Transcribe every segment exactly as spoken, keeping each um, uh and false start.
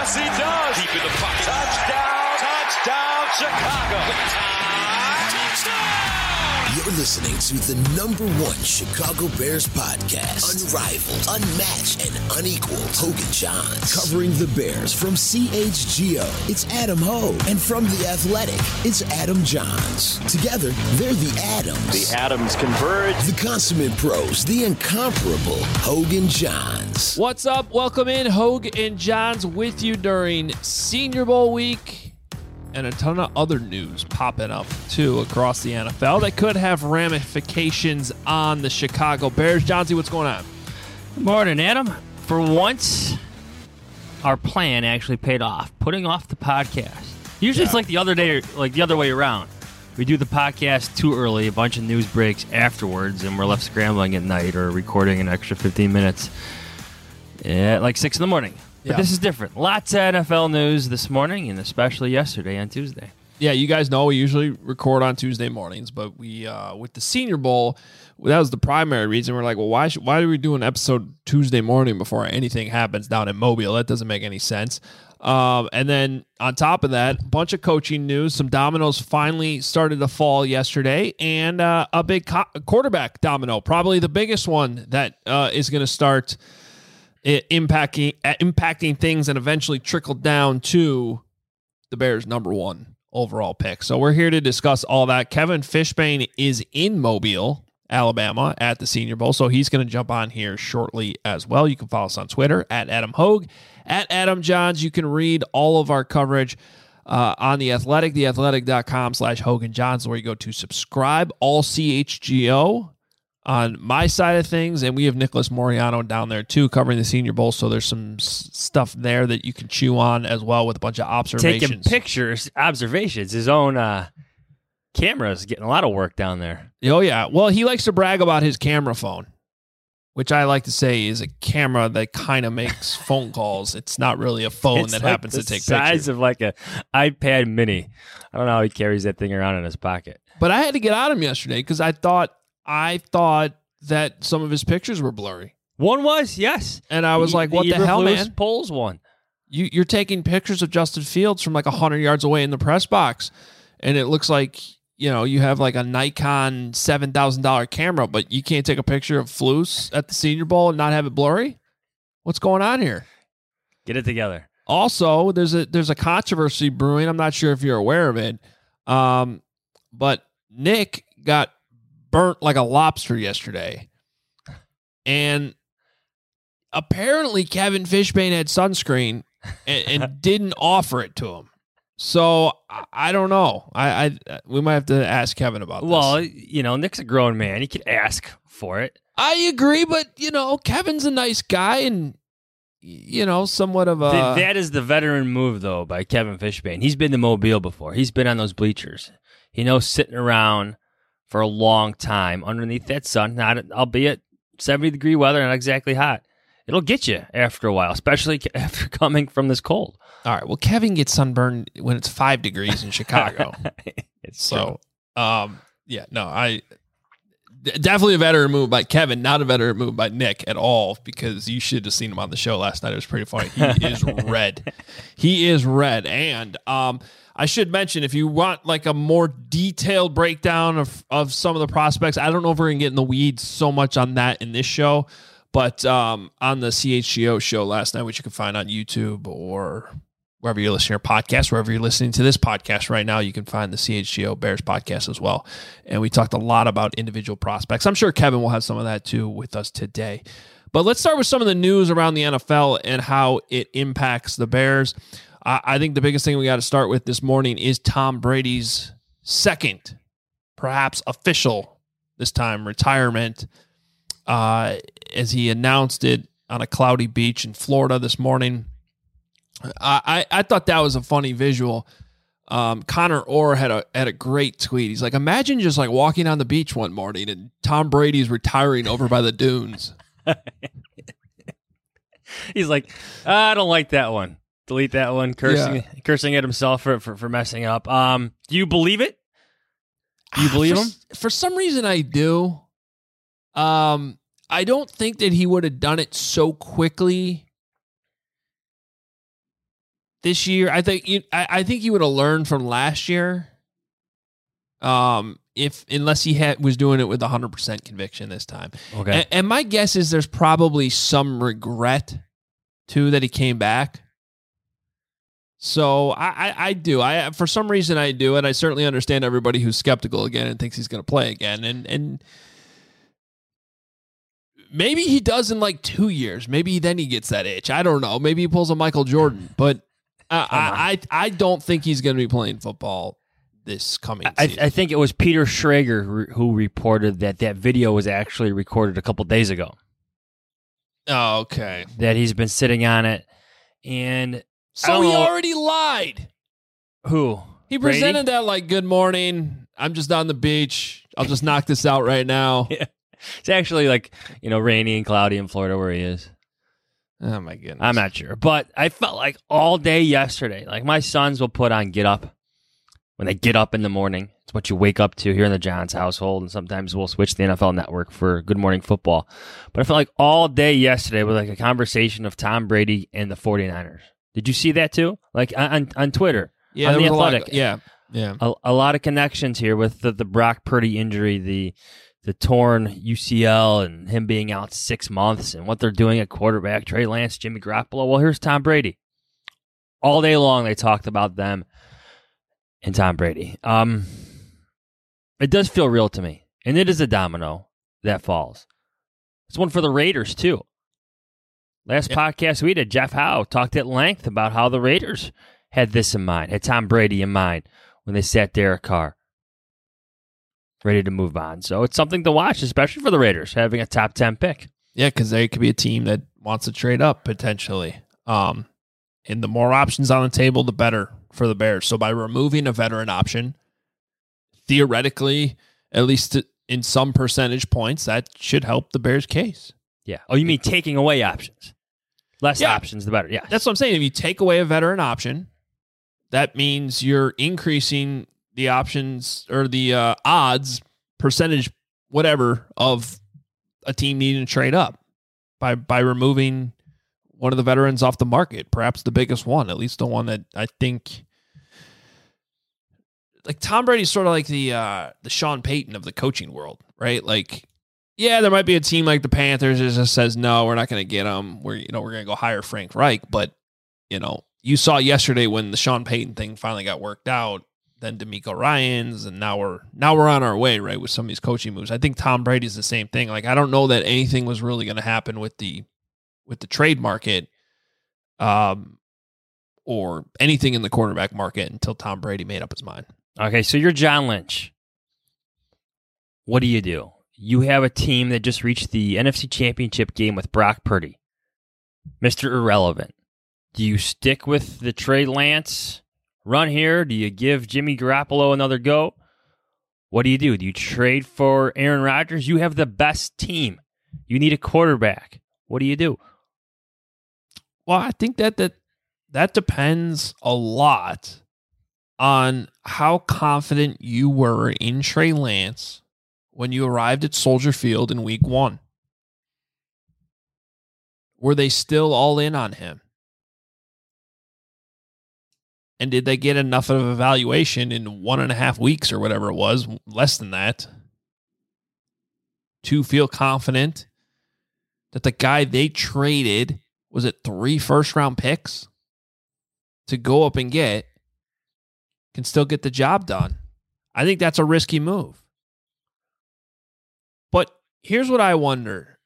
Yes, he does. Deep in the pocket. Touchdown. Touchdown, Chicago. You're listening to the number one Chicago Bears podcast. Unrivaled, unmatched, and unequaled. Hogan Johns. Covering the Bears from C H G O, it's Adam Hogue. And from The Athletic, it's Adam Johns. Together, they're the Adams. The Adams converge. The consummate pros, the incomparable Hogan Johns. What's up? Welcome in. Hogue and Johns with you during Senior Bowl week. And a ton of other news popping up, too, across the N F L that could have ramifications on the Chicago Bears. Johnsy, what's going on? Good morning, Adam. For once, our plan actually paid off, putting off the podcast. Usually yeah. It's like the other day, like the other way around. We do the podcast too early, a bunch of news breaks afterwards, and we're left scrambling at night or recording an extra fifteen minutes at like six in the morning. But yeah. This is different. Lots of N F L news this morning, and especially yesterday on Tuesday. Yeah, you guys know we usually record on Tuesday mornings, but we uh, with the Senior Bowl, that was the primary reason. We're like, well, why should, why do we do an episode Tuesday morning before anything happens down in Mobile? That doesn't make any sense. Um, and then on top of that, a bunch of coaching news. Some dominoes finally started to fall yesterday, and uh, a big co- quarterback domino, probably the biggest one that uh, is going to start impacting impacting things and eventually trickle down to the Bears' number one overall pick. So we're here to discuss all that. Kevin Fishbain is in Mobile, Alabama, at the Senior Bowl, so he's going to jump on here shortly as well. You can follow us on Twitter at Adam Hogue, at Adam Johns. You can read all of our coverage uh, on The Athletic, theathletic.com slash Hogan Johns, where you go to subscribe, all C H G O. On my side of things, and we have Nicholas Moriano down there too, covering the Senior Bowl, so there's some s- stuff there that you can chew on as well with a bunch of observations. Taking pictures, observations. His own uh, camera is getting a lot of work down there. Oh, yeah. Well, he likes to brag about his camera phone, which I like to say is a camera that kind of makes phone calls. It's not really a phone it's that like happens the to take size pictures. of like a iPad mini. I don't know how he carries that thing around in his pocket. But I had to get on him yesterday because I thought I thought that some of his pictures were blurry. One was, yes. And I was the, like, what the, the hell, Lewis man? Polls one. You, you're taking pictures of Justin Fields from like one hundred yards away in the press box, and it looks like, you know, you have like a Nikon seven thousand dollars camera, but you can't take a picture of Flus at the Senior Bowl and not have it blurry? What's going on here? Get it together. Also, there's a there's a controversy brewing. I'm not sure if you're aware of it, um, but Nick got burnt like a lobster yesterday. And apparently Kevin Fishbain had sunscreen and, and didn't offer it to him. So I, I don't know. I, I we might have to ask Kevin about this. Well, you know, Nick's a grown man. He could ask for it. I agree, but you know, Kevin's a nice guy and you know, somewhat of a Th- that is the veteran move though by Kevin Fishbain. He's been to Mobile before. He's been on those bleachers. He knows sitting around for a long time underneath that sun, not albeit seventy degree weather, not exactly hot. It'll get you after a while, especially after coming from this cold. All right. Well, Kevin gets sunburned when it's five degrees in Chicago. It's so, um, yeah, no, I definitely a veteran move by Kevin, not a veteran move by Nick at all, because you should have seen him on the show last night. It was pretty funny. He is red. He is red. And um, I should mention, if you want like a more detailed breakdown of, of some of the prospects, I don't know if we're going to get in the weeds so much on that in this show, but um, on the C H G O show last night, which you can find on YouTube or wherever you're listening to your podcast, wherever you're listening to this podcast right now, you can find the C H G O Bears podcast as well. And we talked a lot about individual prospects. I'm sure Kevin will have some of that too with us today. But let's start with some of the news around the N F L and how it impacts the Bears. I, I think the biggest thing we got to start with this morning is Tom Brady's second, perhaps official this time, retirement, uh, as he announced it on a cloudy beach in Florida this morning. I, I thought that was a funny visual. Um, Connor Orr had a had a great tweet. He's like, imagine just like walking on the beach one morning and Tom Brady's retiring over by the dunes. He's like, I don't like that one. Delete that one. Cursing, Yeah. cursing at himself for, for for messing up. Um, do you believe it? Do you believe for, him? For some reason, I do. Um, I don't think that he would have done it so quickly this year, I think you, I, I think he would have learned from last year. Um, if unless he had was doing it with one hundred percent conviction this time. Okay. And, and my guess is there's probably some regret too that he came back. So I, I, I do. I for some reason I do, and I certainly understand everybody who's skeptical again and thinks he's going to play again. And and maybe he does in like two years. Maybe then he gets that itch. I don't know. Maybe he pulls a Michael Jordan, but uh, I, I I don't think he's going to be playing football this coming I, season. I think it was Peter Schrager who, who reported that that video was actually recorded a couple days ago. Oh, okay. That he's been sitting on it, and So he know. already lied. who He Brady? presented that like, good morning. I'm just on the beach. I'll just knock this out right now. Yeah. It's actually like, you know, rainy and cloudy in Florida where he is. Oh, my goodness. I'm not sure. But I felt like all day yesterday, like my sons will put on Get Up when they get up in the morning. It's what you wake up to here in the Johns household. And sometimes we'll switch the N F L Network for Good Morning Football. But I felt like all day yesterday was like a conversation of Tom Brady and the 49ers. Did you see that too? Like on, on Twitter, Yeah, on there The was a lot Athletic. of- yeah, yeah. A, a lot of connections here with the, the Brock Purdy injury, the the torn U C L, and him being out six months, and what they're doing at quarterback, Trey Lance, Jimmy Garoppolo. Well, here's Tom Brady. All day long, they talked about them and Tom Brady. Um, it does feel real to me, and it is a domino that falls. It's one for the Raiders, too. Last Yep. podcast we did, Jeff Howe talked at length about how the Raiders had this in mind, had Tom Brady in mind when they sat Derek Carr, ready to move on. So it's something to watch, especially for the Raiders, having a top ten pick. Yeah, because they could be a team that wants to trade up potentially. Um, and the more options on the table, the better for the Bears. So by removing a veteran option, theoretically, at least in some percentage points, that should help the Bears' case. Yeah. Oh, you mean taking away options? Less Yeah. options, the better. Yeah. That's what I'm saying. If you take away a veteran option, that means you're increasing the options or the uh, odds percentage, whatever, of a team needing to trade up by by removing one of the veterans off the market, perhaps the biggest one, at least the one that I think. Like Tom Brady's sort of like the uh, the Sean Payton of the coaching world, right? Like, yeah, there might be a team like the Panthers that just says, no, we're not going to get him. We're, you know, we're going to go hire Frank Reich. But, you know, you saw yesterday when the Sean Payton thing finally got worked out, then DeMeco Ryans, and now we're now we're on our way, right, with some of these coaching moves. I think Tom Brady's the same thing. Like, I don't know that anything was really going to happen with the with the trade market, um, or anything in the quarterback market until Tom Brady made up his mind. Okay, so you're John Lynch. What do you do? You have a team that just reached the N F C Championship game with Brock Purdy, Mister Irrelevant. Do you stick with the Trey Lance run here? Do you give Jimmy Garoppolo another go? What do you do? Do you trade for Aaron Rodgers? You have the best team. You need a quarterback. What do you do? Well, I think that that, that depends a lot on how confident you were in Trey Lance when you arrived at Soldier Field in week one. Were they still all in on him? And did they get enough of an evaluation in one and a half weeks or whatever it was, less than that, to feel confident that the guy they traded, was it three first round picks to go up and get, can still get the job done? I think that's a risky move. But here's what I wonder.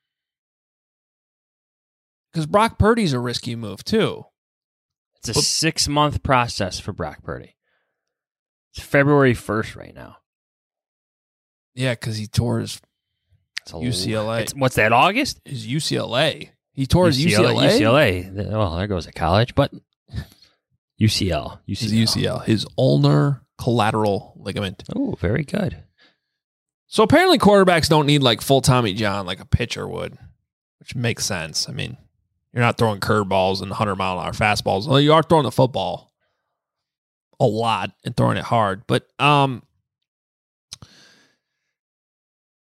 Because Brock Purdy's a risky move too. It's a But- six-month process for Brock Purdy. It's February first right now. Yeah, because he tore his It's a U C L A. It's, what's that, August? his U C L A. He tore his U C L A. U C L A. Well, there goes a college, but U C L. U C L. His U C L. His ulnar collateral ligament. Oh, very good. So apparently quarterbacks don't need like full Tommy John like a pitcher would, which makes sense. I mean, you're not throwing curveballs and one hundred mile an hour fastballs. Well, you are throwing the football a lot and throwing it hard. But um,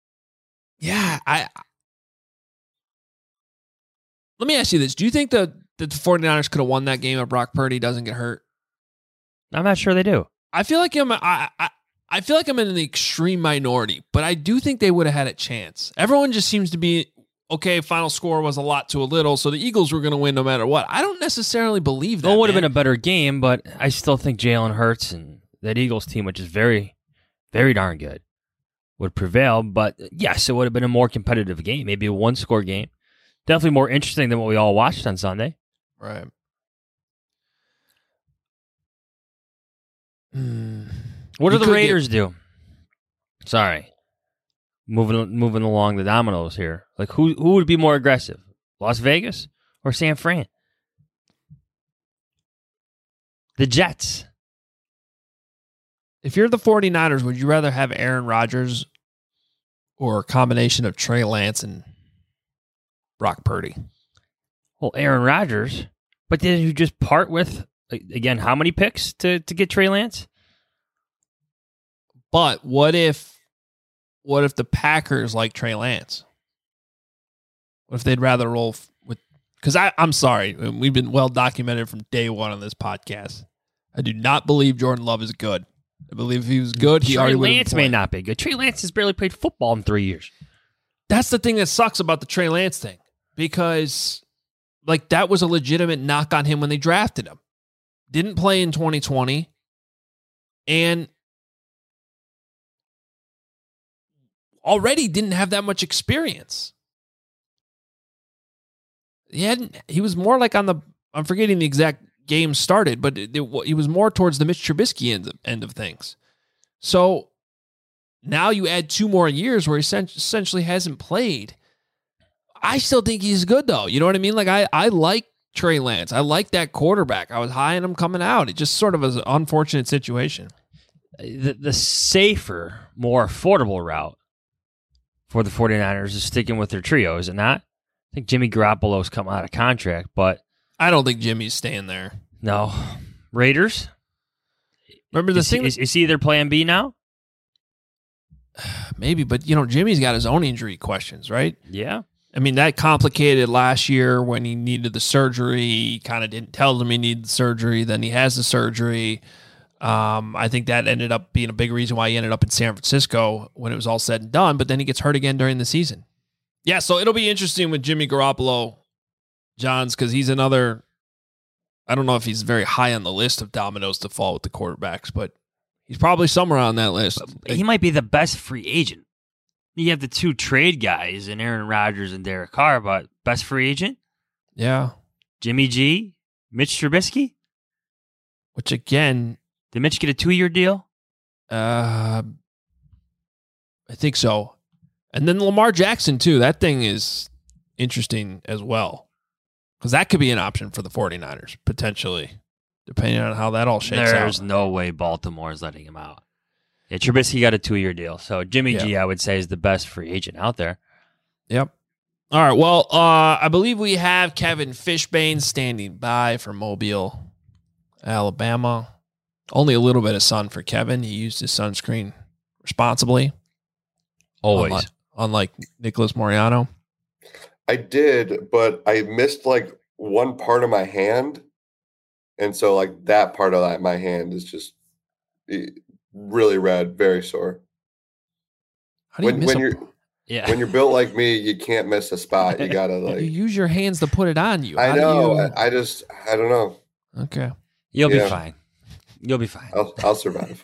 yeah, I let me ask you this: do you think the that the 49ers could have won that game if Brock Purdy doesn't get hurt? I'm not sure they do. I feel like I'm I, I I feel like I'm in the extreme minority, but I do think they would have had a chance. Everyone just seems to be, okay, final score was a lot to a little, so the Eagles were going to win no matter what. I don't necessarily believe that. Well, it would have man. been a better game, but I still think Jalen Hurts and that Eagles team, which is very, very darn good, would prevail. But yes, it would have been a more competitive game, maybe a one-score game. Definitely more interesting than what we all watched on Sunday. Right. Mm. What You do the could Raiders do? Sorry. Moving moving along the dominoes here. Like, who who would be more aggressive? Las Vegas or San Fran? The Jets. If you're the 49ers, would you rather have Aaron Rodgers or a combination of Trey Lance and Brock Purdy? Well, Aaron Rodgers. But did you just part with, again, how many picks to, to get Trey Lance? But what if what if the Packers like Trey Lance? What if they'd rather roll f- with... Because I'm sorry, we've been well documented from day one on this podcast. I do not believe Jordan Love is good. I believe if he was good, he Trey already would have Lance been may playing. not be good. Trey Lance has barely played football in three years. That's the thing that sucks about the Trey Lance thing. Because, like, that was a legitimate knock on him when they drafted him. Didn't play in twenty twenty. And already didn't have that much experience. He hadn't. He was more like on the. I'm forgetting the exact game started, but it, it, he was more towards the Mitch Trubisky end of, end of things. So now you add two more years where he essentially hasn't played. I still think he's good though. You know what I mean? Like I, I like Trey Lance. I like that quarterback. I was high on him coming out. It just sort of was an unfortunate situation. The, the safer, more affordable route for the 49ers is sticking with their trio, is it not? I think Jimmy Garoppolo's come out of contract, but I don't think Jimmy's staying there. no. Raiders? Remember the is, thing? he, is, is he their plan B now? Maybe, but you know, Jimmy's got his own injury questions, right? Yeah. I mean, that complicated last year when he needed the surgery. He kind of didn't tell them he needed the surgery. Then he has the surgery. Um, I think that ended up being a big reason why he ended up in San Francisco when it was all said and done. But then he gets hurt again during the season. Yeah, so it'll be interesting with Jimmy Garoppolo, Johns, because he's another. I don't know if he's very high on the list of dominoes to fall with the quarterbacks, but he's probably somewhere on that list. He might be the best free agent. You have the two trade guys in Aaron Rodgers and Derek Carr, but best free agent? Yeah. Jimmy G? Mitch Trubisky? Which, again... Did Mitch get a two-year deal? Uh, I think so. And then Lamar Jackson, too. That thing is interesting as well. Because that could be an option for the 49ers, potentially, depending on how that all shakes There's out. There's no way Baltimore is letting him out. Yeah, Trubisky got a two-year deal. So Jimmy yeah. G, I would say, is the best free agent out there. Yep. All right. Well, uh, I believe we have Kevin Fishbane standing by from Mobile, Alabama. Only a little bit of sun for Kevin. He used his sunscreen responsibly. Always. Unlike, unlike Nicholas Moriano. I did, but I missed like one part of my hand. And so like that part of that, my hand is just really red, very sore. How do you when miss when a, you're Yeah. when you're built like me, you can't miss a spot. You gotta like you use your hands to put it on you. I How do know. you- I, I just I don't know. Okay. You'll Yeah. be fine. You'll be fine. I'll I'll survive.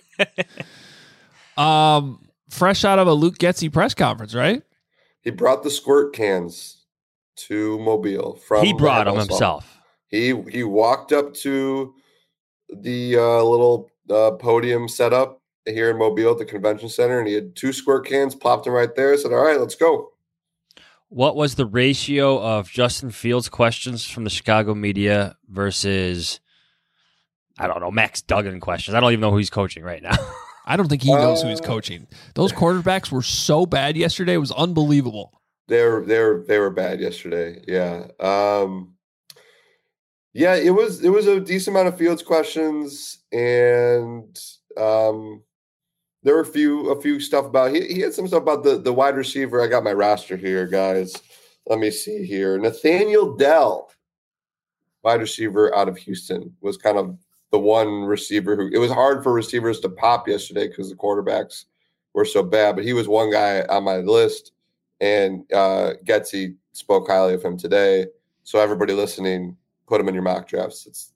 Um, fresh out of a Luke Getsy press conference, right? He brought the squirt cans to Mobile from He brought them Lambeau Swamp. himself. He he walked up to the uh, little uh, podium setup here in Mobile at the convention center, and he had two squirt cans, plopped them right there. Said, "All right, let's go." What was the ratio of Justin Fields questions from the Chicago media versus, I don't know, Max Duggan questions? I don't even know who he's coaching right now. I don't think he knows who he's Uh, coaching. Those quarterbacks were so bad yesterday. It was unbelievable. They were they were they were bad yesterday. Yeah, um, yeah. It was it was a decent amount of Fields questions, and um, there were a few a few stuff about he he had some stuff about the the wide receiver. I got my roster here, guys. Let me see here. Nathaniel Dell. wide receiver out of Houston, was kind of the one receiver who, it was hard for receivers to pop yesterday because the quarterbacks were so bad, but he was one guy on my list, and uh, Getsy spoke highly of him today. So everybody listening, put him in your mock drafts. It's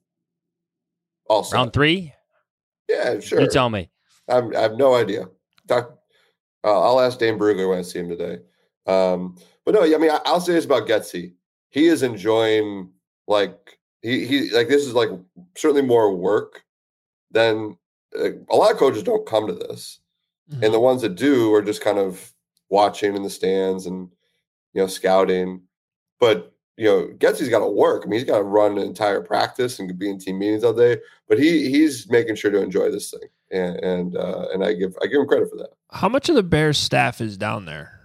all set. Round three? Yeah, sure. You tell me. I'm, I have no idea. Doc, uh, I'll ask Dane Brugler when I see him today. Um, but no, I mean, I, I'll say this about Getsy. He is enjoying, like, he, he like, this is like certainly more work than uh, a lot of coaches don't come to this. Mm-hmm. And the ones that do are just kind of watching in the stands and, you know, scouting. But, you know, Getsy's got to work. I mean, he's got to run an entire practice and be in team meetings all day. But he he's making sure to enjoy this thing, and and uh, and I give I give him credit for that. How much of the Bears staff is down there?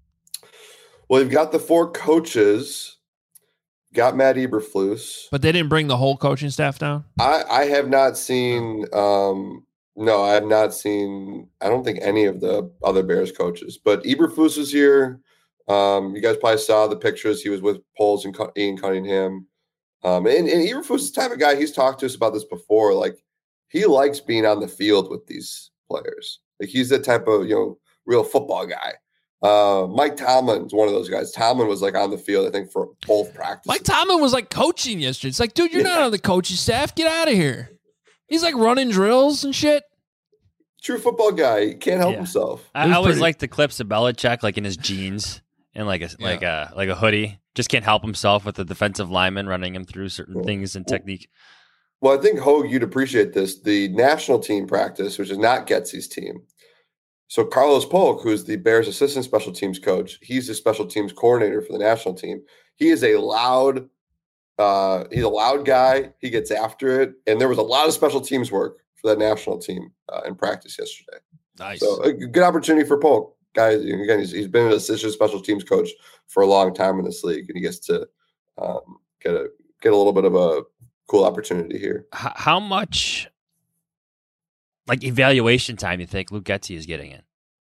Well, you've got the four coaches, got Matt Eberflus, but they didn't bring the whole coaching staff down. I I have not seen. Um, no, I have not seen. I don't think any of the other Bears coaches, but Eberflus is here. Um, you guys probably saw the pictures. He was with Poles and Ian Cunningham. Um, and, and Eberflus is the type of guy, he's talked to us about this before. Like, he likes being on the field with these players. Like, he's the type of, you know, real football guy. Uh, Mike Tomlin's one of those guys. Tomlin was like on the field, I think, for both practices. Mike Tomlin was like coaching yesterday. It's like, dude, you're yeah. not on the coaching staff. Get out of here. He's like running drills and shit. True football guy. He can't help yeah. himself. I, I always pretty... like the clips of Belichick, like in his jeans. And like a yeah. like a like a hoodie, just can't help himself with the defensive lineman running him through certain well, things and technique. Well, I think Hogue, you'd appreciate this. The national team practice, which is not Getsy's team. So Carlos Polk, who's the Bears' assistant special teams coach, he's the special teams coordinator for the national team. He is a loud, uh, he's a loud guy. He gets after it, and there was a lot of special teams work for that national team uh, in practice yesterday. Nice. So a good opportunity for Polk. Guy, again, he's, he's been an assistant special teams coach for a long time in this league, and he gets to um, get a get a little bit of a cool opportunity here. How much, like, evaluation time you think Luke Getsy is getting in?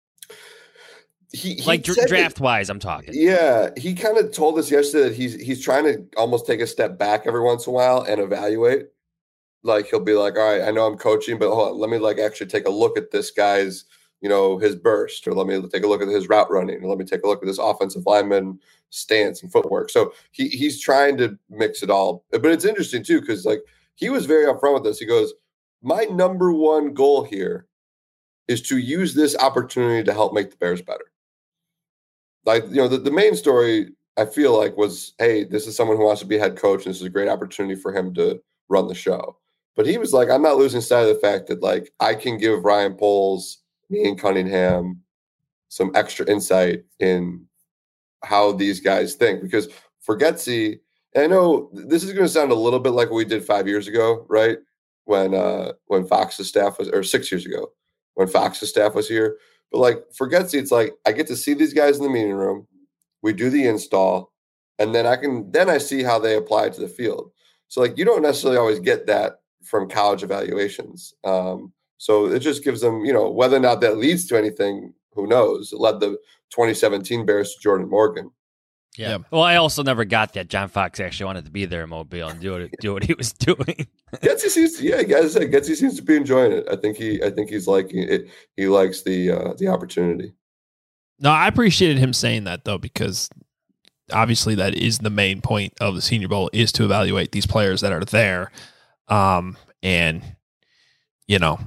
He, he like dr- draft wise, I'm talking. Yeah, he kind of told us yesterday that he's he's trying to almost take a step back every once in a while and evaluate. Like, he'll be like, all right, I know I'm coaching, but hold on, let me like actually take a look at this guy's, you know, his burst, or let me take a look at his route running, or let me take a look at this offensive lineman stance and footwork. So he he's trying to mix it all. But it's interesting too, because like he was very upfront with this. He goes, my number one goal here is to use this opportunity to help make the Bears better. Like, you know, the, the main story I feel like was, hey, this is someone who wants to be a head coach, and this is a great opportunity for him to run the show. But he was like, I'm not losing sight of the fact that like I can give Ryan Poles, me and Cunningham, some extra insight in how these guys think. Because for Getsy, and I know this is going to sound a little bit like what we did five years ago, right? When uh, when Fox's staff was, or six years ago, when Fox's staff was here. But like for Getsy, it's like I get to see these guys in the meeting room. We do the install, and then I can then I see how they apply it to the field. So like you don't necessarily always get that from college evaluations. Um, So it just gives them, you know, whether or not that leads to anything, who knows? It led the twenty seventeen Bears to Jordan Morgan. Yeah. yeah. Well, I also never got that John Fox actually wanted to be there in Mobile and do what do what he was doing. Getsy seems, yeah, as I said, Getsy seems to be enjoying it. I think he, I think he's liking it. He likes the uh, the opportunity. No, I appreciated him saying that though, because obviously that is the main point of the Senior Bowl, is to evaluate these players that are there, um, and you know.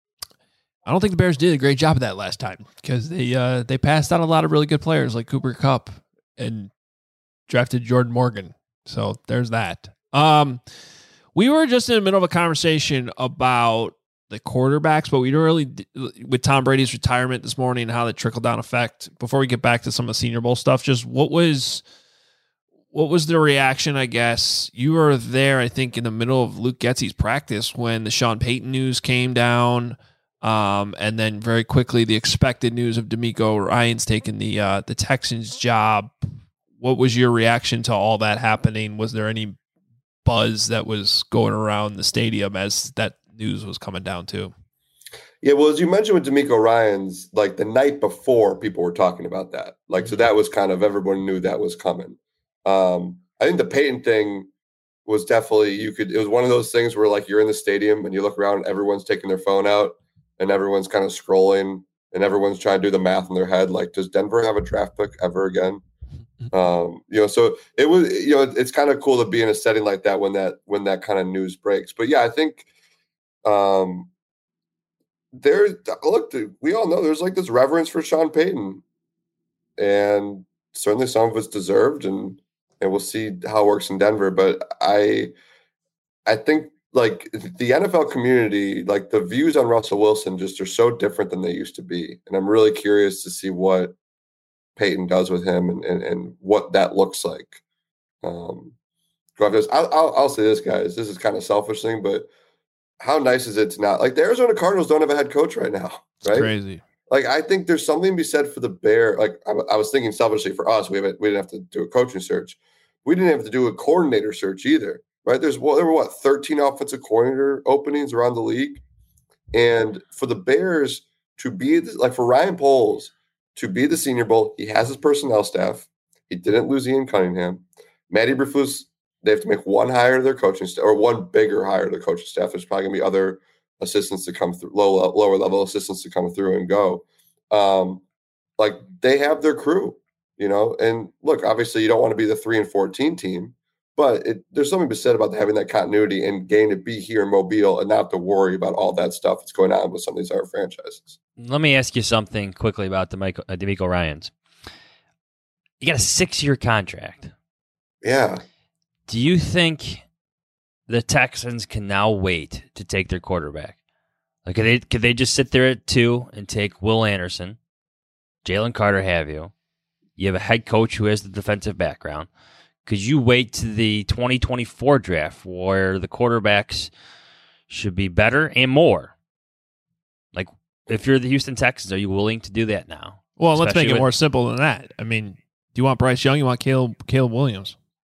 I don't think the Bears did a great job of that last time, because they uh, they passed out a lot of really good players like Cooper Kupp and drafted Jordan Morgan. So there's that. Um, we were just in the middle of a conversation about the quarterbacks, but we didn't really, with Tom Brady's retirement this morning and how that trickled down effect. Before we get back to some of the Senior Bowl stuff, just what was what was the reaction? I guess you were there, I think, in the middle of Luke Getsy's practice when the Sean Payton news came down. Um, and then very quickly, the expected news of D'Amico Ryans taking the uh, the Texans job. What was your reaction to all that happening? Was there any buzz that was going around the stadium as that news was coming down too? Yeah, well, as you mentioned with D'Amico Ryans, like the night before, people were talking about that. Like, so that was kind of, everyone knew that was coming. Um, I think the Peyton thing was definitely, you could, it was one of those things where like you're in the stadium and you look around and everyone's taking their phone out and everyone's kind of scrolling and everyone's trying to do the math in their head. Like, does Denver have a draft pick ever again? Um, you know, so it was, you know, it's kind of cool to be in a setting like that when that, when that kind of news breaks. But yeah, I think, um, there, look, we all know there's like this reverence for Sean Payton, and certainly some of it's deserved, and and we'll see how it works in Denver. But I, I think like the N F L community, like the views on Russell Wilson just are so different than they used to be, and I'm really curious to see what Payton does with him and and, and what that looks like. Um, I'll, I'll I'll say this, guys. This is kind of selfish thing, but how nice is it to not, like, the Arizona Cardinals don't have a head coach right now, right? It's crazy. Like, I think there's something to be said for the Bear. Like, I, I was thinking selfishly for us, we haven't, we didn't have to do a coaching search. We didn't have to do a coordinator search either, right? There's, well, there were what, thirteen offensive coordinator openings around the league. And for the Bears to be, like, for Ryan Poles to be the Senior Bowl, he has his personnel staff. He didn't lose Ian Cunningham. Matty Eberflus, they have to make one hire to their coaching staff, or one bigger hire to their coaching staff. There's probably going to be other assistants to come through, low, lower level assistants to come through and go. Um, like, they have their crew, you know. And look, obviously, you don't want to be the three and fourteen team, but it, there's something to be said about having that continuity and getting to be here in Mobile and not have to worry about all that stuff that's going on with some of these other franchises. Let me ask you something quickly about DeMeco, uh, DeMeco Ryans. You got a six-year contract. Yeah. Do you think the Texans can now wait to take their quarterback? Like, could they, could they just sit there at two and take Will Anderson, Jalen Carter have you? You have a head coach who has the defensive background. Could you wait to the twenty twenty-four draft where the quarterbacks should be better and more? Like, if you're the Houston Texans, are you willing to do that now? Well, let's Especially make it with- more simple than that. I mean, do you want Bryce Young? You want Caleb, Caleb Williams?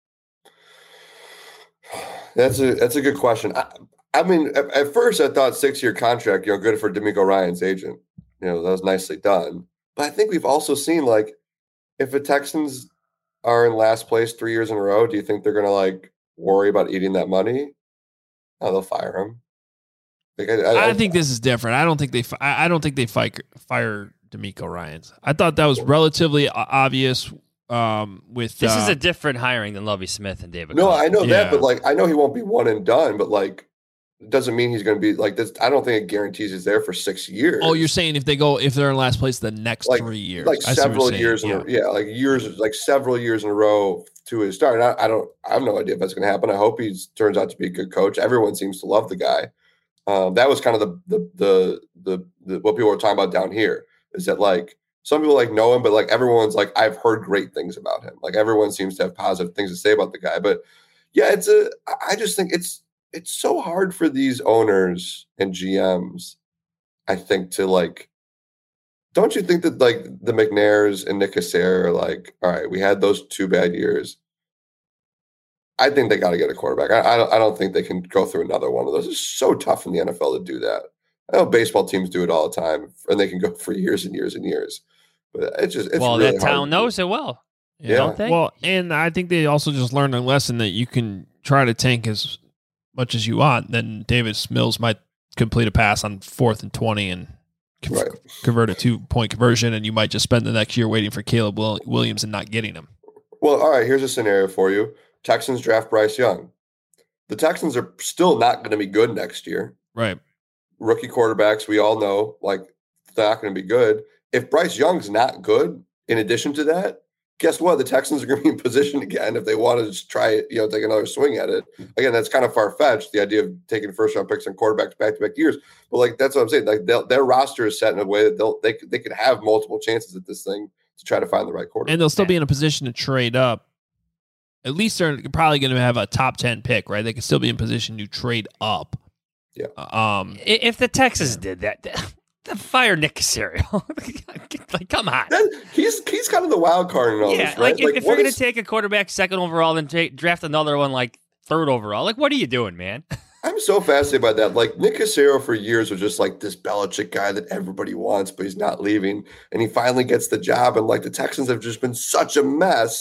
That's a that's a good question. I, I mean, at, at first I thought six year contract, you know, good for DeMeco Ryans' agent. You know, that was nicely done. But I think we've also seen, like, if the Texans are in last place three years in a row, do you think they're going to, like, worry about eating that money? Oh, they'll fire him. Like, I, I, I think this is different. I don't think they. fi- I I don't think they fire fire DeMeco Ryans. I thought that was relatively o- obvious. Um, with This uh, is a different hiring than Lovie Smith and David. no, Carr. I know Yeah. that, but, like, I know he won't be one and done, but, like, it doesn't mean he's going to be like this. I don't think it guarantees he's there for six years. Oh, you're saying if they go if they're in last place the next like three years, like I see what you're several saying. years in Yeah. a, yeah, like years, like several years in a row to his start. And I, I don't, I have no idea if that's going to happen. I hope he turns out to be a good coach. Everyone seems to love the guy. Um, that was kind of the the, the the the what people were talking about down here is that, like, some people like know him, but, like, everyone's like, I've heard great things about him. Like, everyone seems to have positive things to say about the guy. But yeah, it's a. I just think it's it's so hard for these owners and G Ms, I think, to, like. Don't you think that, like, the McNairs and Nick Casares are like, all right, we had those two bad years. I think they got to get a quarterback. I, I don't. I don't think they can go through another one of those. It's so tough in the N F L to do that. I know baseball teams do it all the time, and they can go for years and years and years. But it's just it's well, really that hard town to do. knows it well. Yeah. Don't they? Well, and I think they also just learned a lesson that you can try to tank as much as you want. Then Davis Mills might complete a pass on fourth and twenty and con- Right. convert a two point conversion, and you might just spend the next year waiting for Caleb Will- Williams and not getting him. Well, all right, here's a scenario for you. Texans draft Bryce Young. The Texans are still not going to be good next year. Right. Rookie quarterbacks, we all know, like, they're not going to be good. If Bryce Young's not good, in addition to that, guess what? The Texans are going to be in position again if they want to just try it, you know, take another swing at it. Again, that's kind of far-fetched, the idea of taking first-round picks and quarterbacks back-to-back years. But, like, that's what I'm saying. Like, their roster is set in a way that they'll they they could have multiple chances at this thing to try to find the right quarterback. And they'll still be in a position to trade up. At least they're probably going to have a top ten pick, right? They could still be in position to trade up. Yeah. Um. I- if the Texans did that, the fire Nick Casario. Like, come on. That, he's he's kind of the wild card in all Yeah, this, right? like, if, if you're what going to is- take a quarterback second overall and ta- draft another one like third overall, like, what are you doing, man? I'm so fascinated by that. Like, Nick Casario for years was just like this Belichick guy that everybody wants, but he's not leaving. And he finally gets the job. And, like, the Texans have just been such a mess.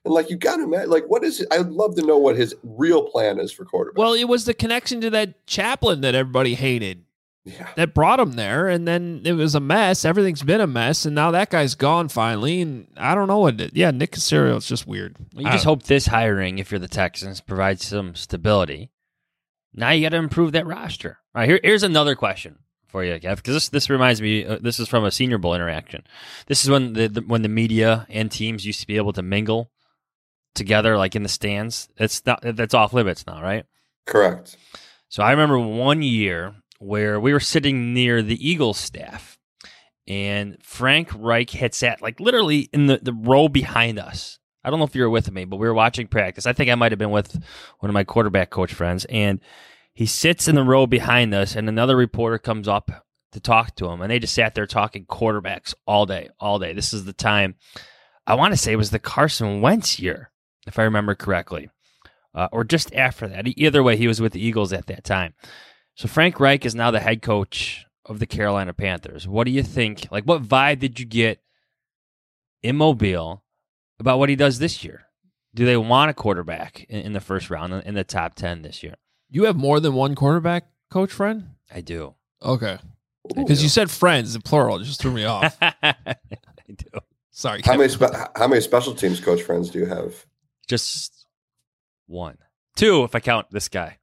And like, you got to imagine, like, what is it? I'd love to know what his real plan is for quarterback. Well, it was the connection to that chaplain that everybody hated. Yeah. That brought him there, and then it was a mess. Everything's been a mess, and now that guy's gone finally, and I don't know what it, yeah, Nick Caserio is just weird. You just hope this hiring, if you're the Texans, provides some stability. Now you got to improve that roster. All right, here, here's another question for you, Kev, because this this reminds me, uh, this is from a Senior Bowl interaction. This is when the, the when the media and teams used to be able to mingle together, like in the stands. It's not, that's off limits now, right? Correct. So I remember one year where we were sitting near the Eagles staff, and Frank Reich had sat like literally in the, the row behind us. I don't know if you were with me, but we were watching practice. I think I might have been with one of my quarterback coach friends, and he sits in the row behind us, and another reporter comes up to talk to him, and they just sat there talking quarterbacks all day, all day. This is the time, I want to say it was the Carson Wentz year, if I remember correctly, uh, or just after that. Either way, he was with the Eagles at that time. So Frank Reich is now the head coach of the Carolina Panthers. What do you think? Like, what vibe did you get in Mobile about what he does this year? Do they want a quarterback in, in the first round, in the top ten this year? You have more than one quarterback coach friend? I do. Okay. Because you said friends in plural. It just threw me off. I do. How Sorry, Kevin. many spe- how many special teams coach friends do you have? Just one. Two, if I count this guy.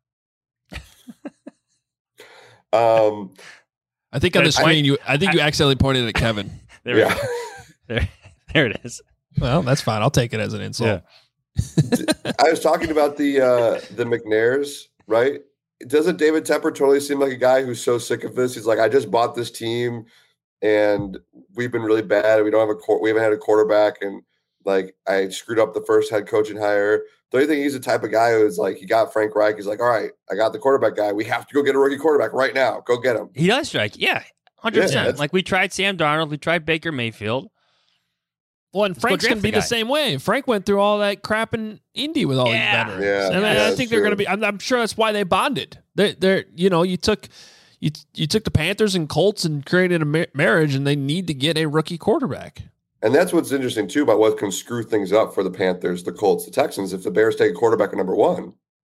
Um, I think on the I- screen, you. I think you accidentally pointed at Kevin. There we yeah. go. There, there it is. Well, that's fine. I'll take it as an insult. I was talking about the uh, the McNairs, right? Doesn't David Tepper totally seem like a guy who's so sick of this? He's like, I just bought this team, and we've been really bad. We don't have a qu- we haven't had a quarterback, and like I screwed up the first head coaching hire. Don't you think he's the type of guy who's like, he got Frank Reich? He's like, all right, I got the quarterback guy. We have to go get a rookie quarterback right now. Go get him. He does strike. Yeah, one hundred Yeah, percent. that's- Like we tried Sam Darnold. We tried Baker Mayfield. Well, and Let's go Frank's draft going to be the the guy. same way. Frank went through all that crap in Indy with all Yeah. these veterans. Yeah, and I, yeah, I that's think they're true. going to be. I'm, I'm sure that's why they bonded. They're, they're, you know, you took, you you took the Panthers and Colts and created a mar- marriage, and they need to get a rookie quarterback. And that's what's interesting, too, about what can screw things up for the Panthers, the Colts, the Texans, if the Bears take a quarterback at number one.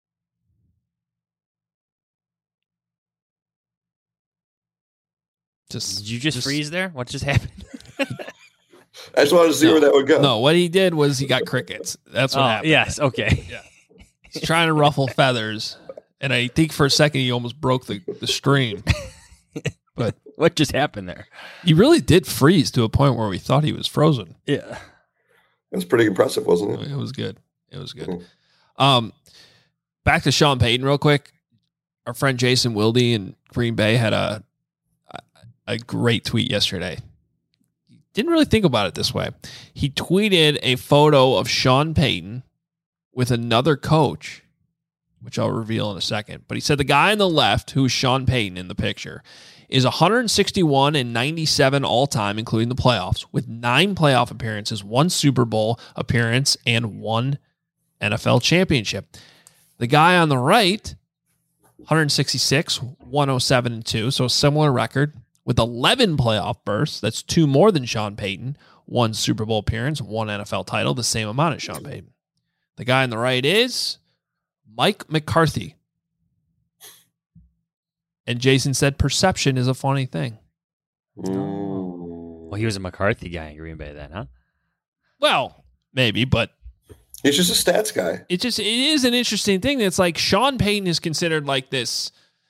Just Did you just, freeze there? What just happened? I just wanted to see No. where that would go. No, what he did was he got crickets. That's what Oh, happened. yes. Okay. He's trying to ruffle feathers, and I think for a second he almost broke the, the stream. But What just happened there? he really did freeze to a point where we thought he was frozen. Yeah. It was pretty impressive, wasn't it? It was good. It was good. Mhm. Um, back to Sean Payton real quick. Our friend Jason Wilde in Green Bay had a a, a great tweet yesterday. Didn't really think about it this way. He tweeted a photo of Sean Payton with another coach, which I'll reveal in a second. But he said the guy on the left, who's Sean Payton in the picture, is one sixty-one and ninety-seven all time, including the playoffs, with nine playoff appearances, one Super Bowl appearance, and one N F L championship. The guy on the right, one sixty-six, one oh seven, and two, so a similar record, with eleven playoff bursts. That's two more than Sean Payton, one Super Bowl appearance, one N F L title, the same amount as Sean Payton. The guy on the right is Mike McCarthy. And Jason said perception is a funny thing. Mm. Well, he was a McCarthy guy in Green Bay then, huh? Well, maybe, but He's just a stats guy. it just it is an interesting thing. It's like Sean Payton is considered like this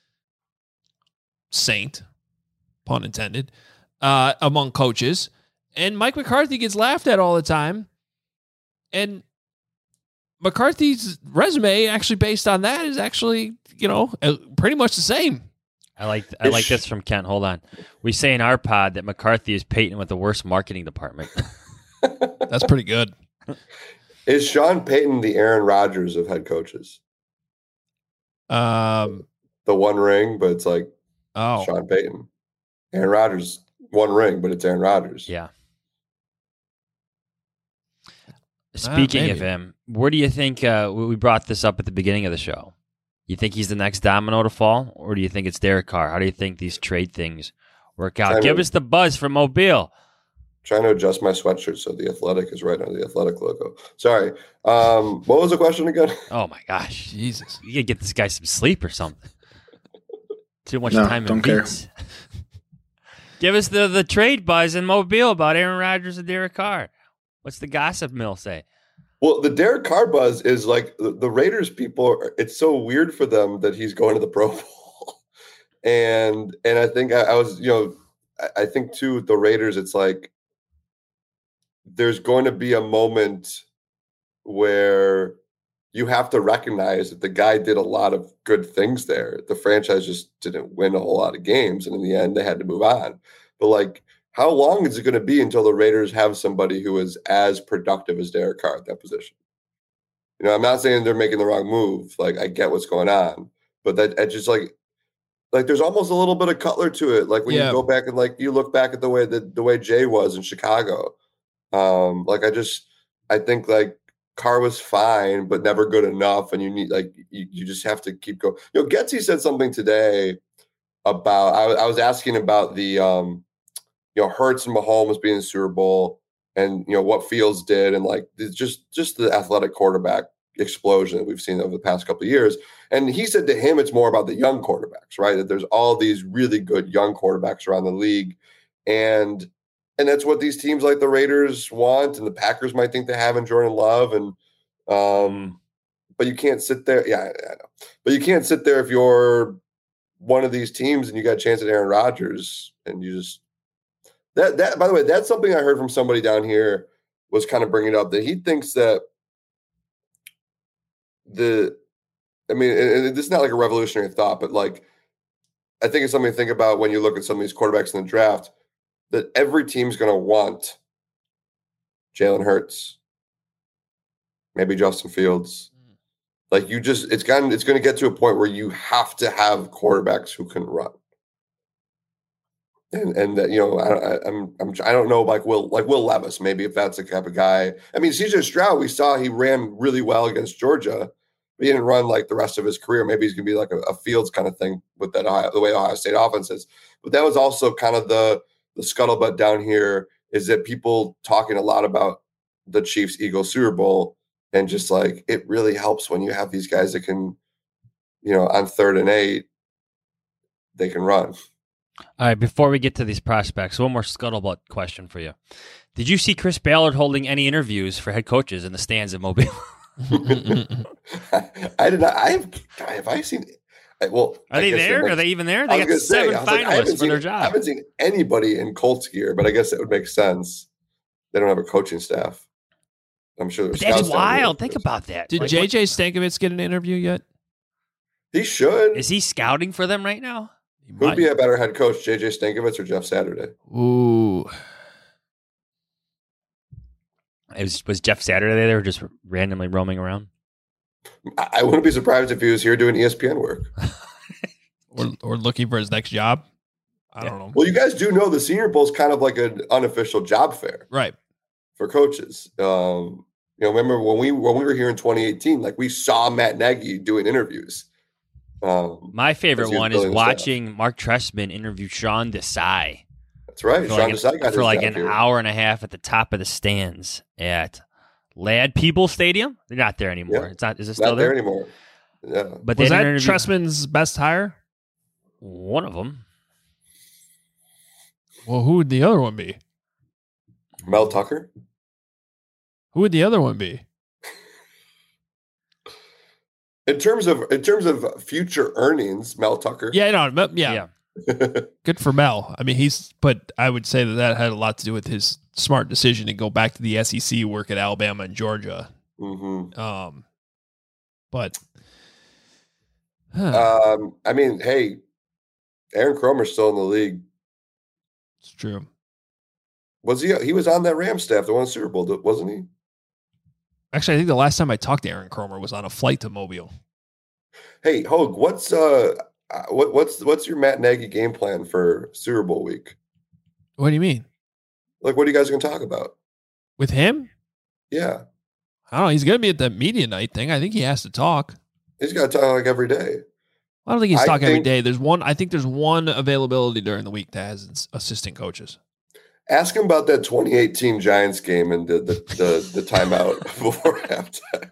saint, pun intended, uh, among coaches, and Mike McCarthy gets laughed at all the time. And McCarthy's resume, actually based on that, is actually, you know, uh, pretty much the same. I like I like this from Kent. Hold on. We say in our pod that McCarthy is Peyton with the worst marketing department. That's pretty good. Is Sean Payton the Aaron Rodgers of head coaches? Um. The one ring, but it's like Oh, Sean Payton. Aaron Rodgers, one ring, but it's Aaron Rodgers. Yeah. Speaking maybe. of him, where do you think uh, we we brought this up at the beginning of the show? You think he's the next domino to fall, or do you think it's Derek Carr? How do you think these trade things work out? I Give mean- us the buzz from Mobile. Trying to adjust my sweatshirt so the Athletic is right under the Athletic logo. Sorry. Um, what was the question again? Oh my gosh, Jesus. you gotta get this guy some sleep or something. Too much No, time in don't care. beats. Give us the, the trade buzz in Mobile about Aaron Rodgers and Derek Carr. What's the gossip mill say? Well, the Derek Carr buzz is like the, the Raiders people. Are, it's so weird for them that he's going to the Pro Bowl, and and I think I, I was, you know, I, I think too the Raiders. It's like there's going to be a moment where you have to recognize that the guy did a lot of good things there. The franchise just didn't win a whole lot of games, and in the end, they had to move on. But like, how long is it going to be until the Raiders have somebody who is as productive as Derek Carr at that position? You know, I'm not saying they're making the wrong move. Like, I get what's going on, but that it's just like, like there's almost a little bit of Cutler to it. Like when Yeah. you go back and like you look back at the way that the way Jay was in Chicago. Um, like I just, I think like Carr was fine, but never good enough, and you need like you, you just have to keep going. You know, Getsy said something today about I, I was asking about the um. you know, Hurts and Mahomes being in the Super Bowl and, you know, what Fields did and like it's just just the athletic quarterback explosion that we've seen over the past couple of years. And he said to him, it's more about the young quarterbacks, right? That there's all these really good young quarterbacks around the league. And and that's what these teams like the Raiders want and the Packers might think they have in Jordan Love. And um, but you can't sit there. Yeah, I know. But you can't sit there if you're one of these teams and you got a chance at Aaron Rodgers and you just That that by the way, that's something I heard from somebody down here was kind of bringing up that he thinks that the, I mean, and, and this is not like a revolutionary thought, but like I think it's something to think about when you look at some of these quarterbacks in the draft. That every team's going to want Jalen Hurts, maybe Justin Fields. Like you just, it's gotten, it's going to get to a point where you have to have quarterbacks who can run. And and that you know I, I'm I'm I don't know like Will like Will Levis maybe if that's the type of guy. I mean C J Stroud, we saw he ran really well against Georgia, but he didn't run like the rest of his career. Maybe he's gonna be like a, a Fields kind of thing with that Ohio, the way Ohio State offense is. But that was also kind of the the scuttlebutt down here is that people talking a lot about the Chiefs Eagles Super Bowl and just like it really helps when you have these guys that can, you know, on third and eight, they can run. All right, before we get to these prospects, one more scuttlebutt question for you. Did you see Chris Ballard holding any interviews for head coaches in the stands at Mobile? I did not. I have. Have I seen? Well, Are I they guess there? might- Are they even there? I They was got gonna say, seven I was like, I haven't finalists for seen- their I job. haven't seen anybody in Colts gear, but I guess it would make sense. They don't have a coaching staff. I'm sure. But there's that's scouts down there. wild. Think about that. Did Like, J J Stankovitz get an interview yet? He should. what- Is he scouting for them right now? He Who'd might. be a better head coach, J J Stankovitz or Jeff Saturday? Ooh. It was, was Jeff Saturday there just randomly roaming around? I, I wouldn't be surprised if he was here doing E S P N work. Or, or looking for his next job. I Yeah. don't know. Well, you guys do know the Senior Bowl is kind of like an unofficial job fair Right. for coaches. Um, you know, remember when we when we were here in twenty eighteen, like we saw Matt Nagy doing interviews. Um, My favorite As he was one is building the staff. watching Mark Trestman interview Sean Desai that's right. for Sean like, Desai an, got for his like job an here. hour and a half at the top of the stands at Lad People Stadium. They're not there anymore. Yeah. It's not. Is it still Not there there? anymore. Yeah. But Was they that didn't interview- Tressman's best hire? One of them. Well, who would the other one be? Mel Tucker. Who would the other one be? In terms of in terms of future earnings, Mel Tucker. Yeah, no, but- yeah, Yeah. good for Mel. I mean, he's, but I would say that that had a lot to do with his smart decision to go back to the S E C, work at Alabama and Georgia. hmm Um, but huh, Um, I mean, hey, Aaron Cromer's still in the league. it's true. Was he? He was on that Rams staff that won the Super Bowl, wasn't he? Actually, I think the last time I talked to Aaron Cromer was on a flight to Mobile. Hey, Hogue, what's uh, uh, what, what's what's your Matt Nagy game plan for Super Bowl week? What do you mean? Like, what are you guys going to talk about? With him? Yeah, I don't know. He's going to be at the media night thing. I think he has to talk. he's got to talk like every day. I don't think he's I talking every think- day. There's one. I think there's one availability during the week that has its assistant coaches. Ask him about that twenty eighteen Giants game and the the the, the timeout before halftime.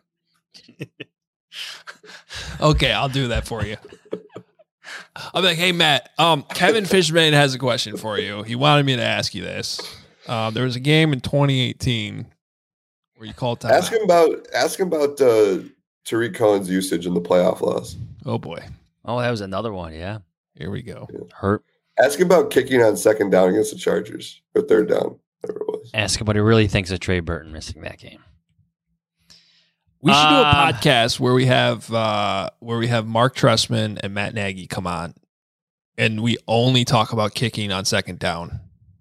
Okay, I'll do that for you. I'll be like, hey, Matt, um, Kevin Fishman has a question for you. He wanted me to ask you this. Uh, there was a game in twenty eighteen where you called time. Ask him about ask him about uh, Tariq Cohen's usage in the playoff loss. Oh, boy. Oh, that was another one, yeah. Here we go. Yeah. Hurt. Ask him about kicking on second down against the Chargers, or third down, whatever it was. Ask him what he really thinks of Trey Burton missing that game. We should do a Uh, podcast where we have uh, where we have Mark Trestman and Matt Nagy come on, and we only talk about kicking on second down.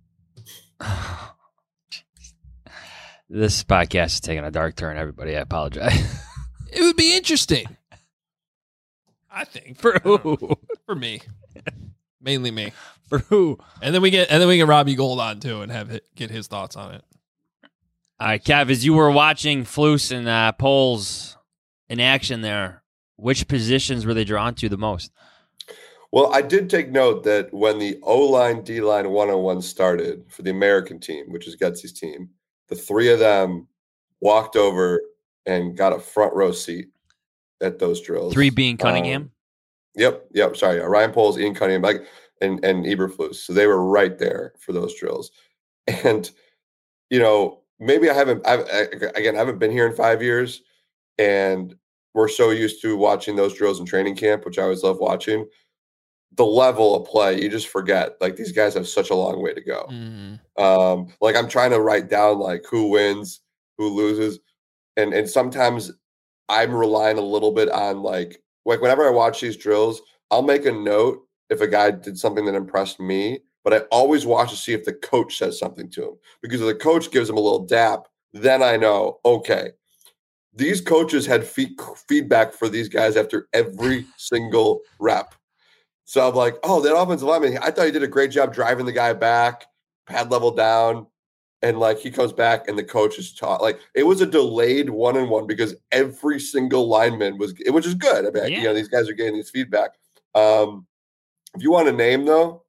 This podcast is taking a dark turn, everybody. I apologize. It would be interesting. I think For who? for me, mainly me, For who? and then we get and then we get Robbie Gold on too and have it, get his thoughts on it. All right, Kev, as you were watching Flus and uh, Poles in action there, which positions were they drawn to the most? Well, I did take note that when the O-line, D-line one-on-one started for the American team, which is Getsy's team, the three of them walked over and got a front row seat at those drills. Three being Cunningham? Um, yep, yep, sorry. Yeah, Ryan Poles, Ian Cunningham, like, and, and Eberflus. So they were right there for those drills. And, you know, maybe I haven't, I've, I, again, I haven't been here in five years, and we're so used to watching those drills in training camp, which I always love watching. The level of play, you just forget. Like, these guys have such a long way to go. Mm. Um, like, I'm trying to write down like who wins, who loses, and and sometimes I'm relying a little bit on like like whenever I watch these drills, I'll make a note if a guy did something that impressed me, but I always watch to see if the coach says something to him, because if the coach gives him a little dap, then I know, okay, these coaches had feed, feedback for these guys after every single rep. So I'm like, oh, that offensive lineman, I thought he did a great job driving the guy back, pad level down, and like he comes back and the coach is taught. Like, it was a delayed one and one because every single lineman was, which is good. I mean, Yeah. you know, these guys are getting this feedback. Um, if you want a name though,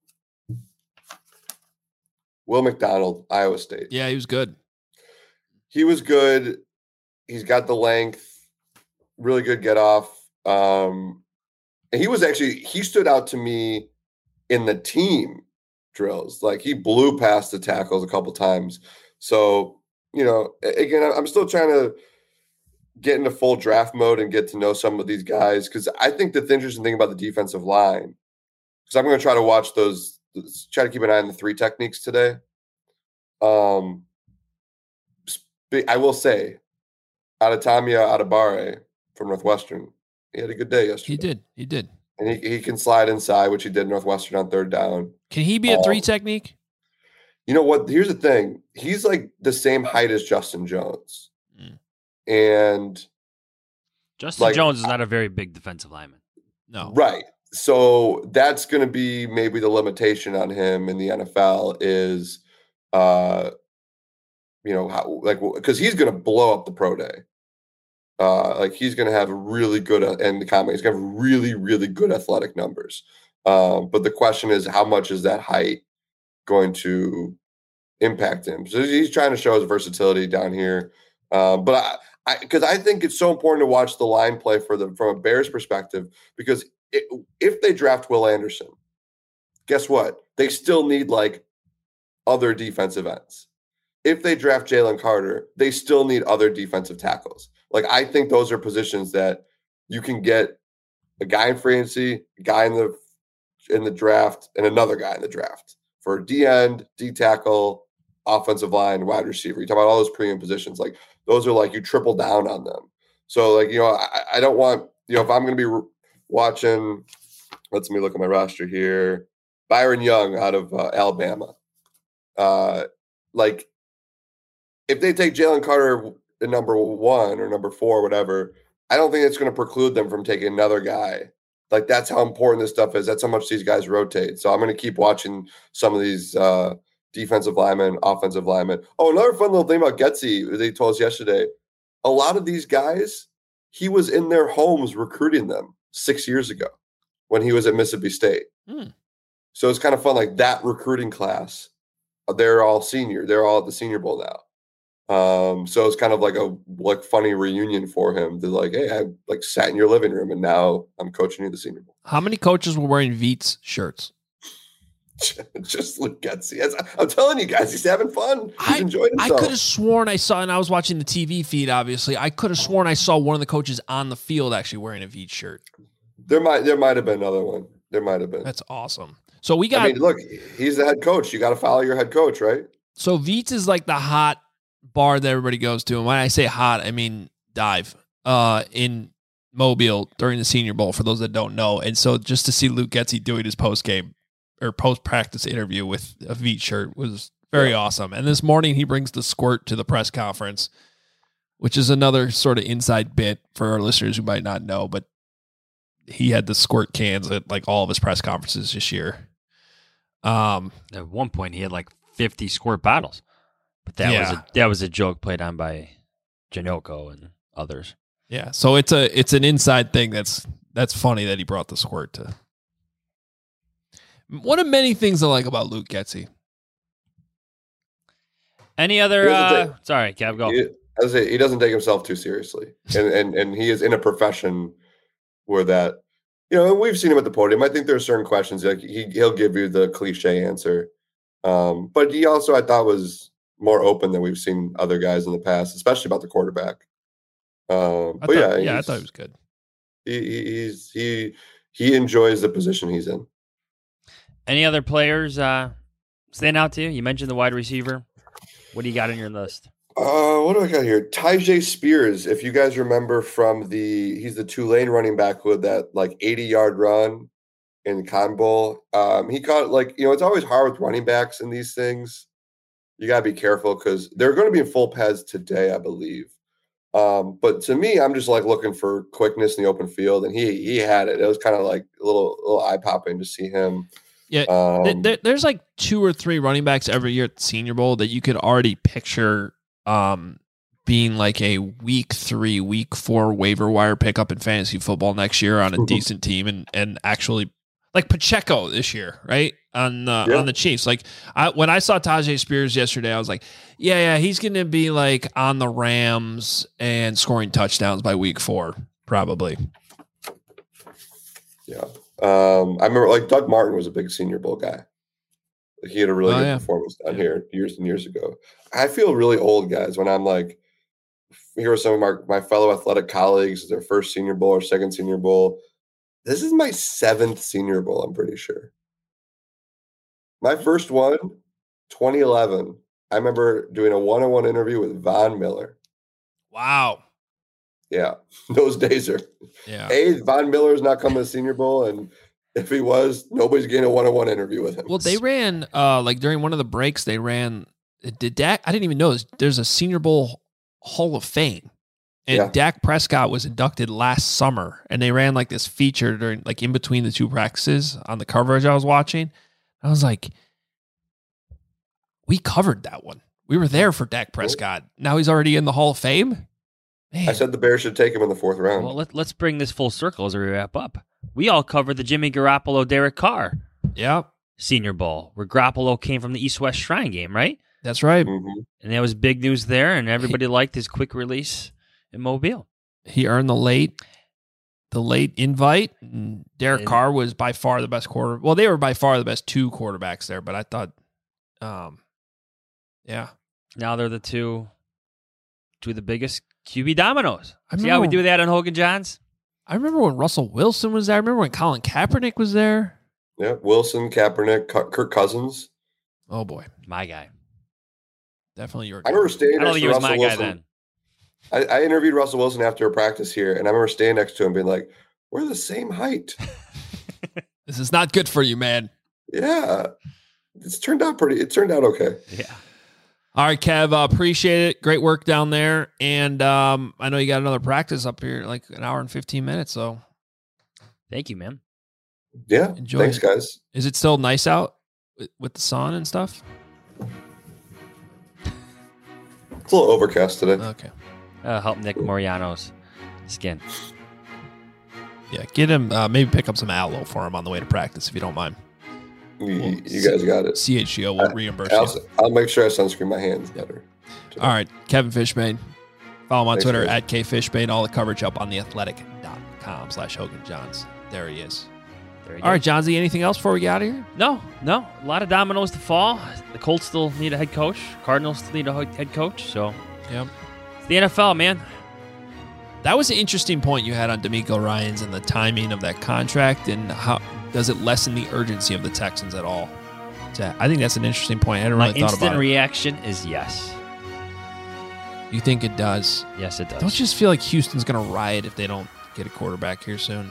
Will McDonald, Iowa State. Yeah, he was good. He was good. He's got the length, really good get off. Um, and he was actually, he stood out to me in the team drills. Like, he blew past the tackles a couple times. So, you know, again, I'm still trying to get into full draft mode and get to know some of these guys, because I think the interesting thing about the defensive line, because I'm going to try to watch those, try to keep an eye on the three techniques today. Um, I will say, Adetomiwa Adebawore from Northwestern, he had a good day yesterday. He did. He did. And he, he can slide inside, which he did Northwestern on third down. Can he be a Um, three technique? You know what? Here's the thing. He's like the same height as Justin Jones. Mm. And Justin like, Jones is not a very big defensive lineman. No. right. So that's going to be maybe the limitation on him in the N F L is, uh, you know, how, like, because he's going to blow up the pro day. Uh, like, he's going to have really good, uh, and the combine, he's going to have really, really good athletic numbers. Um, but the question is, how much is that height going to impact him? So he's trying to show his versatility down here. Um, but I, I, because I think it's so important to watch the line play for the from a Bears perspective, because it, if they draft Will Anderson, guess what? They still need like other defensive ends. If they draft Jalen Carter, they still need other defensive tackles. Like, I think those are positions that you can get a guy in free agency, a guy in the in the draft, and another guy in the draft for D end, D tackle, offensive line, wide receiver. You talk about all those premium positions. Like, those are like, you triple down on them. So, like, you know, I, I don't want, you know, if I'm going to be re- watching, let's me look at my roster here. Byron Young out of uh, Alabama. Uh, like, if they take Jalen Carter at number one or number four, whatever, I don't think it's going to preclude them from taking another guy. Like, that's how important this stuff is. That's how much these guys rotate. So I'm going to keep watching some of these uh, defensive linemen, offensive linemen. Oh, another fun little thing about Getsy, they told us yesterday, a lot of these guys, he was in their homes recruiting them six years ago when he was at Mississippi State. Hmm. So it's kind of fun, like that recruiting class they're all senior. They're all at the Senior Bowl now. Um, so it's kind of like a like funny reunion for him. They're like, hey, I like sat in your living room and now I'm coaching you the Senior Bowl. How many coaches were wearing Veets shirts? Just Luke Getsy. I'm telling you guys, he's having fun. He's I, enjoying himself. I could have sworn I saw, and I was watching the T V feed, obviously. I could have sworn I saw one of the coaches on the field actually wearing a Veets shirt. There might there might have been another one. There might have been. That's awesome. So we got. I mean, look, he's the head coach. You got to follow your head coach, right? So Veets is like the hot bar that everybody goes to, and when I say hot, I mean dive. Uh, in Mobile during the Senior Bowl, for those that don't know, and so just to see Luke Getsy doing his post game or post practice interview with a Veets shirt was very yeah. awesome. And this morning he brings the squirt to the press conference, which is another sort of inside bit for our listeners who might not know, but he had the squirt cans at like all of his press conferences this year. Um, at one point he had like fifty squirt bottles, but that yeah. was a, that was a joke played on by Janoko and others. Yeah. So it's a, it's an inside thing. That's, that's funny that he brought the squirt to. One of many things I like about Luke Getsy. Any other, uh, sorry, Kev, go. He, I was say, he doesn't take himself too seriously. And, and, and he is in a profession where that, you know, and we've seen him at the podium. I think there are certain questions like he he'll give you the cliche answer, um, but he also I thought was more open than we've seen other guys in the past, especially about the quarterback. Um, I but thought, yeah, yeah, I thought he was good. He, he's he he enjoys the position he's in. Any other players uh, stand out to you? You mentioned the wide receiver. What do you got on your list? Uh, what do I got here? Tyjae Spears, if you guys remember from the, he's the Tulane running back with that like eighty yard run in the Cotton Bowl. Um, he caught like, you know, it's always hard with running backs in these things. You got to be careful because they're going to be in full pads today, I believe. Um, but to me, I'm just like looking for quickness in the open field, and he he had it. It was kind of like a little little eye popping to see him. Yeah, um, there, there's like two or three running backs every year at the Senior Bowl that you could already picture um, being like a week three, week four waiver wire pickup in fantasy football next year on a decent team, and and actually like Pacheco this year, right on uh, yeah. on the Chiefs. Like I, when I saw Tyjae Spears yesterday, I was like, yeah, yeah, he's going to be like on the Rams and scoring touchdowns by week four, probably. Yeah. Um, I remember like Doug Martin was a big Senior Bowl guy. He had a really oh, good yeah. performance down here years and years ago. I feel really old, guys, when I'm like, here are some of my, my fellow athletic colleagues, their first Senior Bowl or second Senior Bowl. This is my seventh Senior Bowl, I'm pretty sure. My first one, twenty eleven. I remember doing a one-on-one interview with Von Miller. Wow. Yeah, those days are. Yeah. A, Von Miller's not coming to the Senior Bowl, and if he was, nobody's getting a one-on-one interview with him. Well, they ran uh, like during one of the breaks. They ran. Did Dak? I didn't even know this. There's a Senior Bowl Hall of Fame, and yeah. Dak Prescott was inducted last summer, and they ran like this feature during like in between the two practices on the coverage I was watching. I was like, we covered that one. We were there for Dak Prescott. Now he's already in the Hall of Fame. Man. I said the Bears should take him in the fourth round. Well, let, let's bring this full circle as we wrap up. We all covered the Jimmy Garoppolo, Derek Carr yep. Senior Bowl, where Garoppolo came from the East-West Shrine game, right? That's right. Mm-hmm. And that was big news there, and everybody he, liked his quick release in Mobile. He earned the late the late invite. And Derek and, Carr was by far the best quarter. Well, they were by far the best two quarterbacks there, but I thought, um, yeah. Now they're the two, two of the biggest Q B dominoes. I See how we do that on Hogan Johns? I remember when Russell Wilson was there. I remember when Colin Kaepernick was there. Yeah, Wilson, Kaepernick, Kirk Cousins. Oh, boy. My guy. Definitely your guy. I remember standing I don't next think to he was Russell my Wilson. guy then. I, I interviewed Russell Wilson after a practice here, and I remember standing next to him being like, we're the same height. This is not good for you, man. Yeah. It's turned out pretty, it turned out okay. Yeah. All right, Kev, uh, appreciate it. Great work down there. And um, I know you got another practice up here, like an hour and fifteen minutes. So thank you, man. Yeah. Enjoy Thanks, it. guys. Is it still nice out with, with the sun and stuff? It's a little overcast today. Okay. Uh, help Nick Moriano's skin. Yeah, get him, uh, maybe pick up some aloe for him on the way to practice if you don't mind. You, you guys got it. C H G O will reimburse I'll, you. I'll make sure I sunscreen my hands better. All right, Kevin Fishbane. Follow him on Thanks, Twitter guys. at K Fishbane. All the coverage up on the athletic dot com slash Hogan Johns. There he is. There you All go. right, Johnsy, anything else before we get out of here? No, no. A lot of dominoes to fall. The Colts still need a head coach. Cardinals still need a ho- head coach. So Yep. it's the N F L, man. That was an interesting point you had on D'Amico Ryans and the timing of that contract, and how does it lessen the urgency of the Texans at all? So I think that's an interesting point. I hadn't My really thought instant about it. reaction is yes. You think it does? Yes, it does. Don't you just feel like Houston's going to riot if they don't get a quarterback here soon?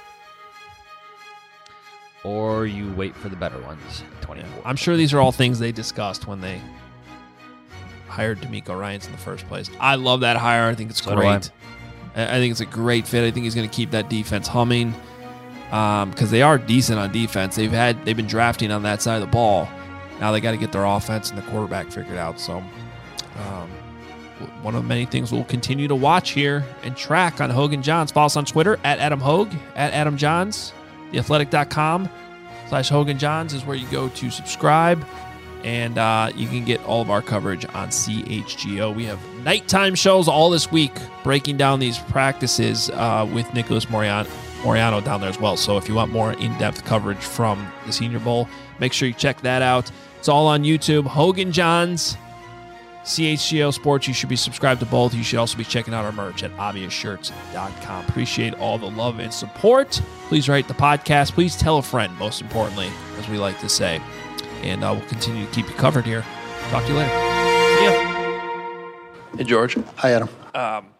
Or you wait for the better ones. twenty-four. I'm sure these are all things they discussed when they hired D'Amico Ryans in the first place. I love that hire. I think it's So do great. I. I think it's a great fit. I think he's going to keep that defense humming because um, they are decent on defense. They've had they've been drafting on that side of the ball. Now they got to get their offense and the quarterback figured out. So um, one of many things we'll continue to watch here and track on Hogan Johns. Follow us on Twitter at Adam Hogue, at Adam Johns. The athletic dot com slash Hogan Johns is where you go to subscribe. And uh, you can get all of our coverage on C H G O. We have nighttime shows all this week breaking down these practices uh, with Nicholas Moriano, Moriano down there as well. So if you want more in-depth coverage from the Senior Bowl, make sure you check that out. It's all on YouTube. Hogan Johns, C H G O Sports. You should be subscribed to both. You should also be checking out our merch at obvious shirts dot com. Appreciate all the love and support. Please rate the podcast. Please tell a friend, most importantly, as we like to say. And uh, we'll continue to keep you covered here. Talk to you later. See ya. Hey, George. Hi, Adam. Um,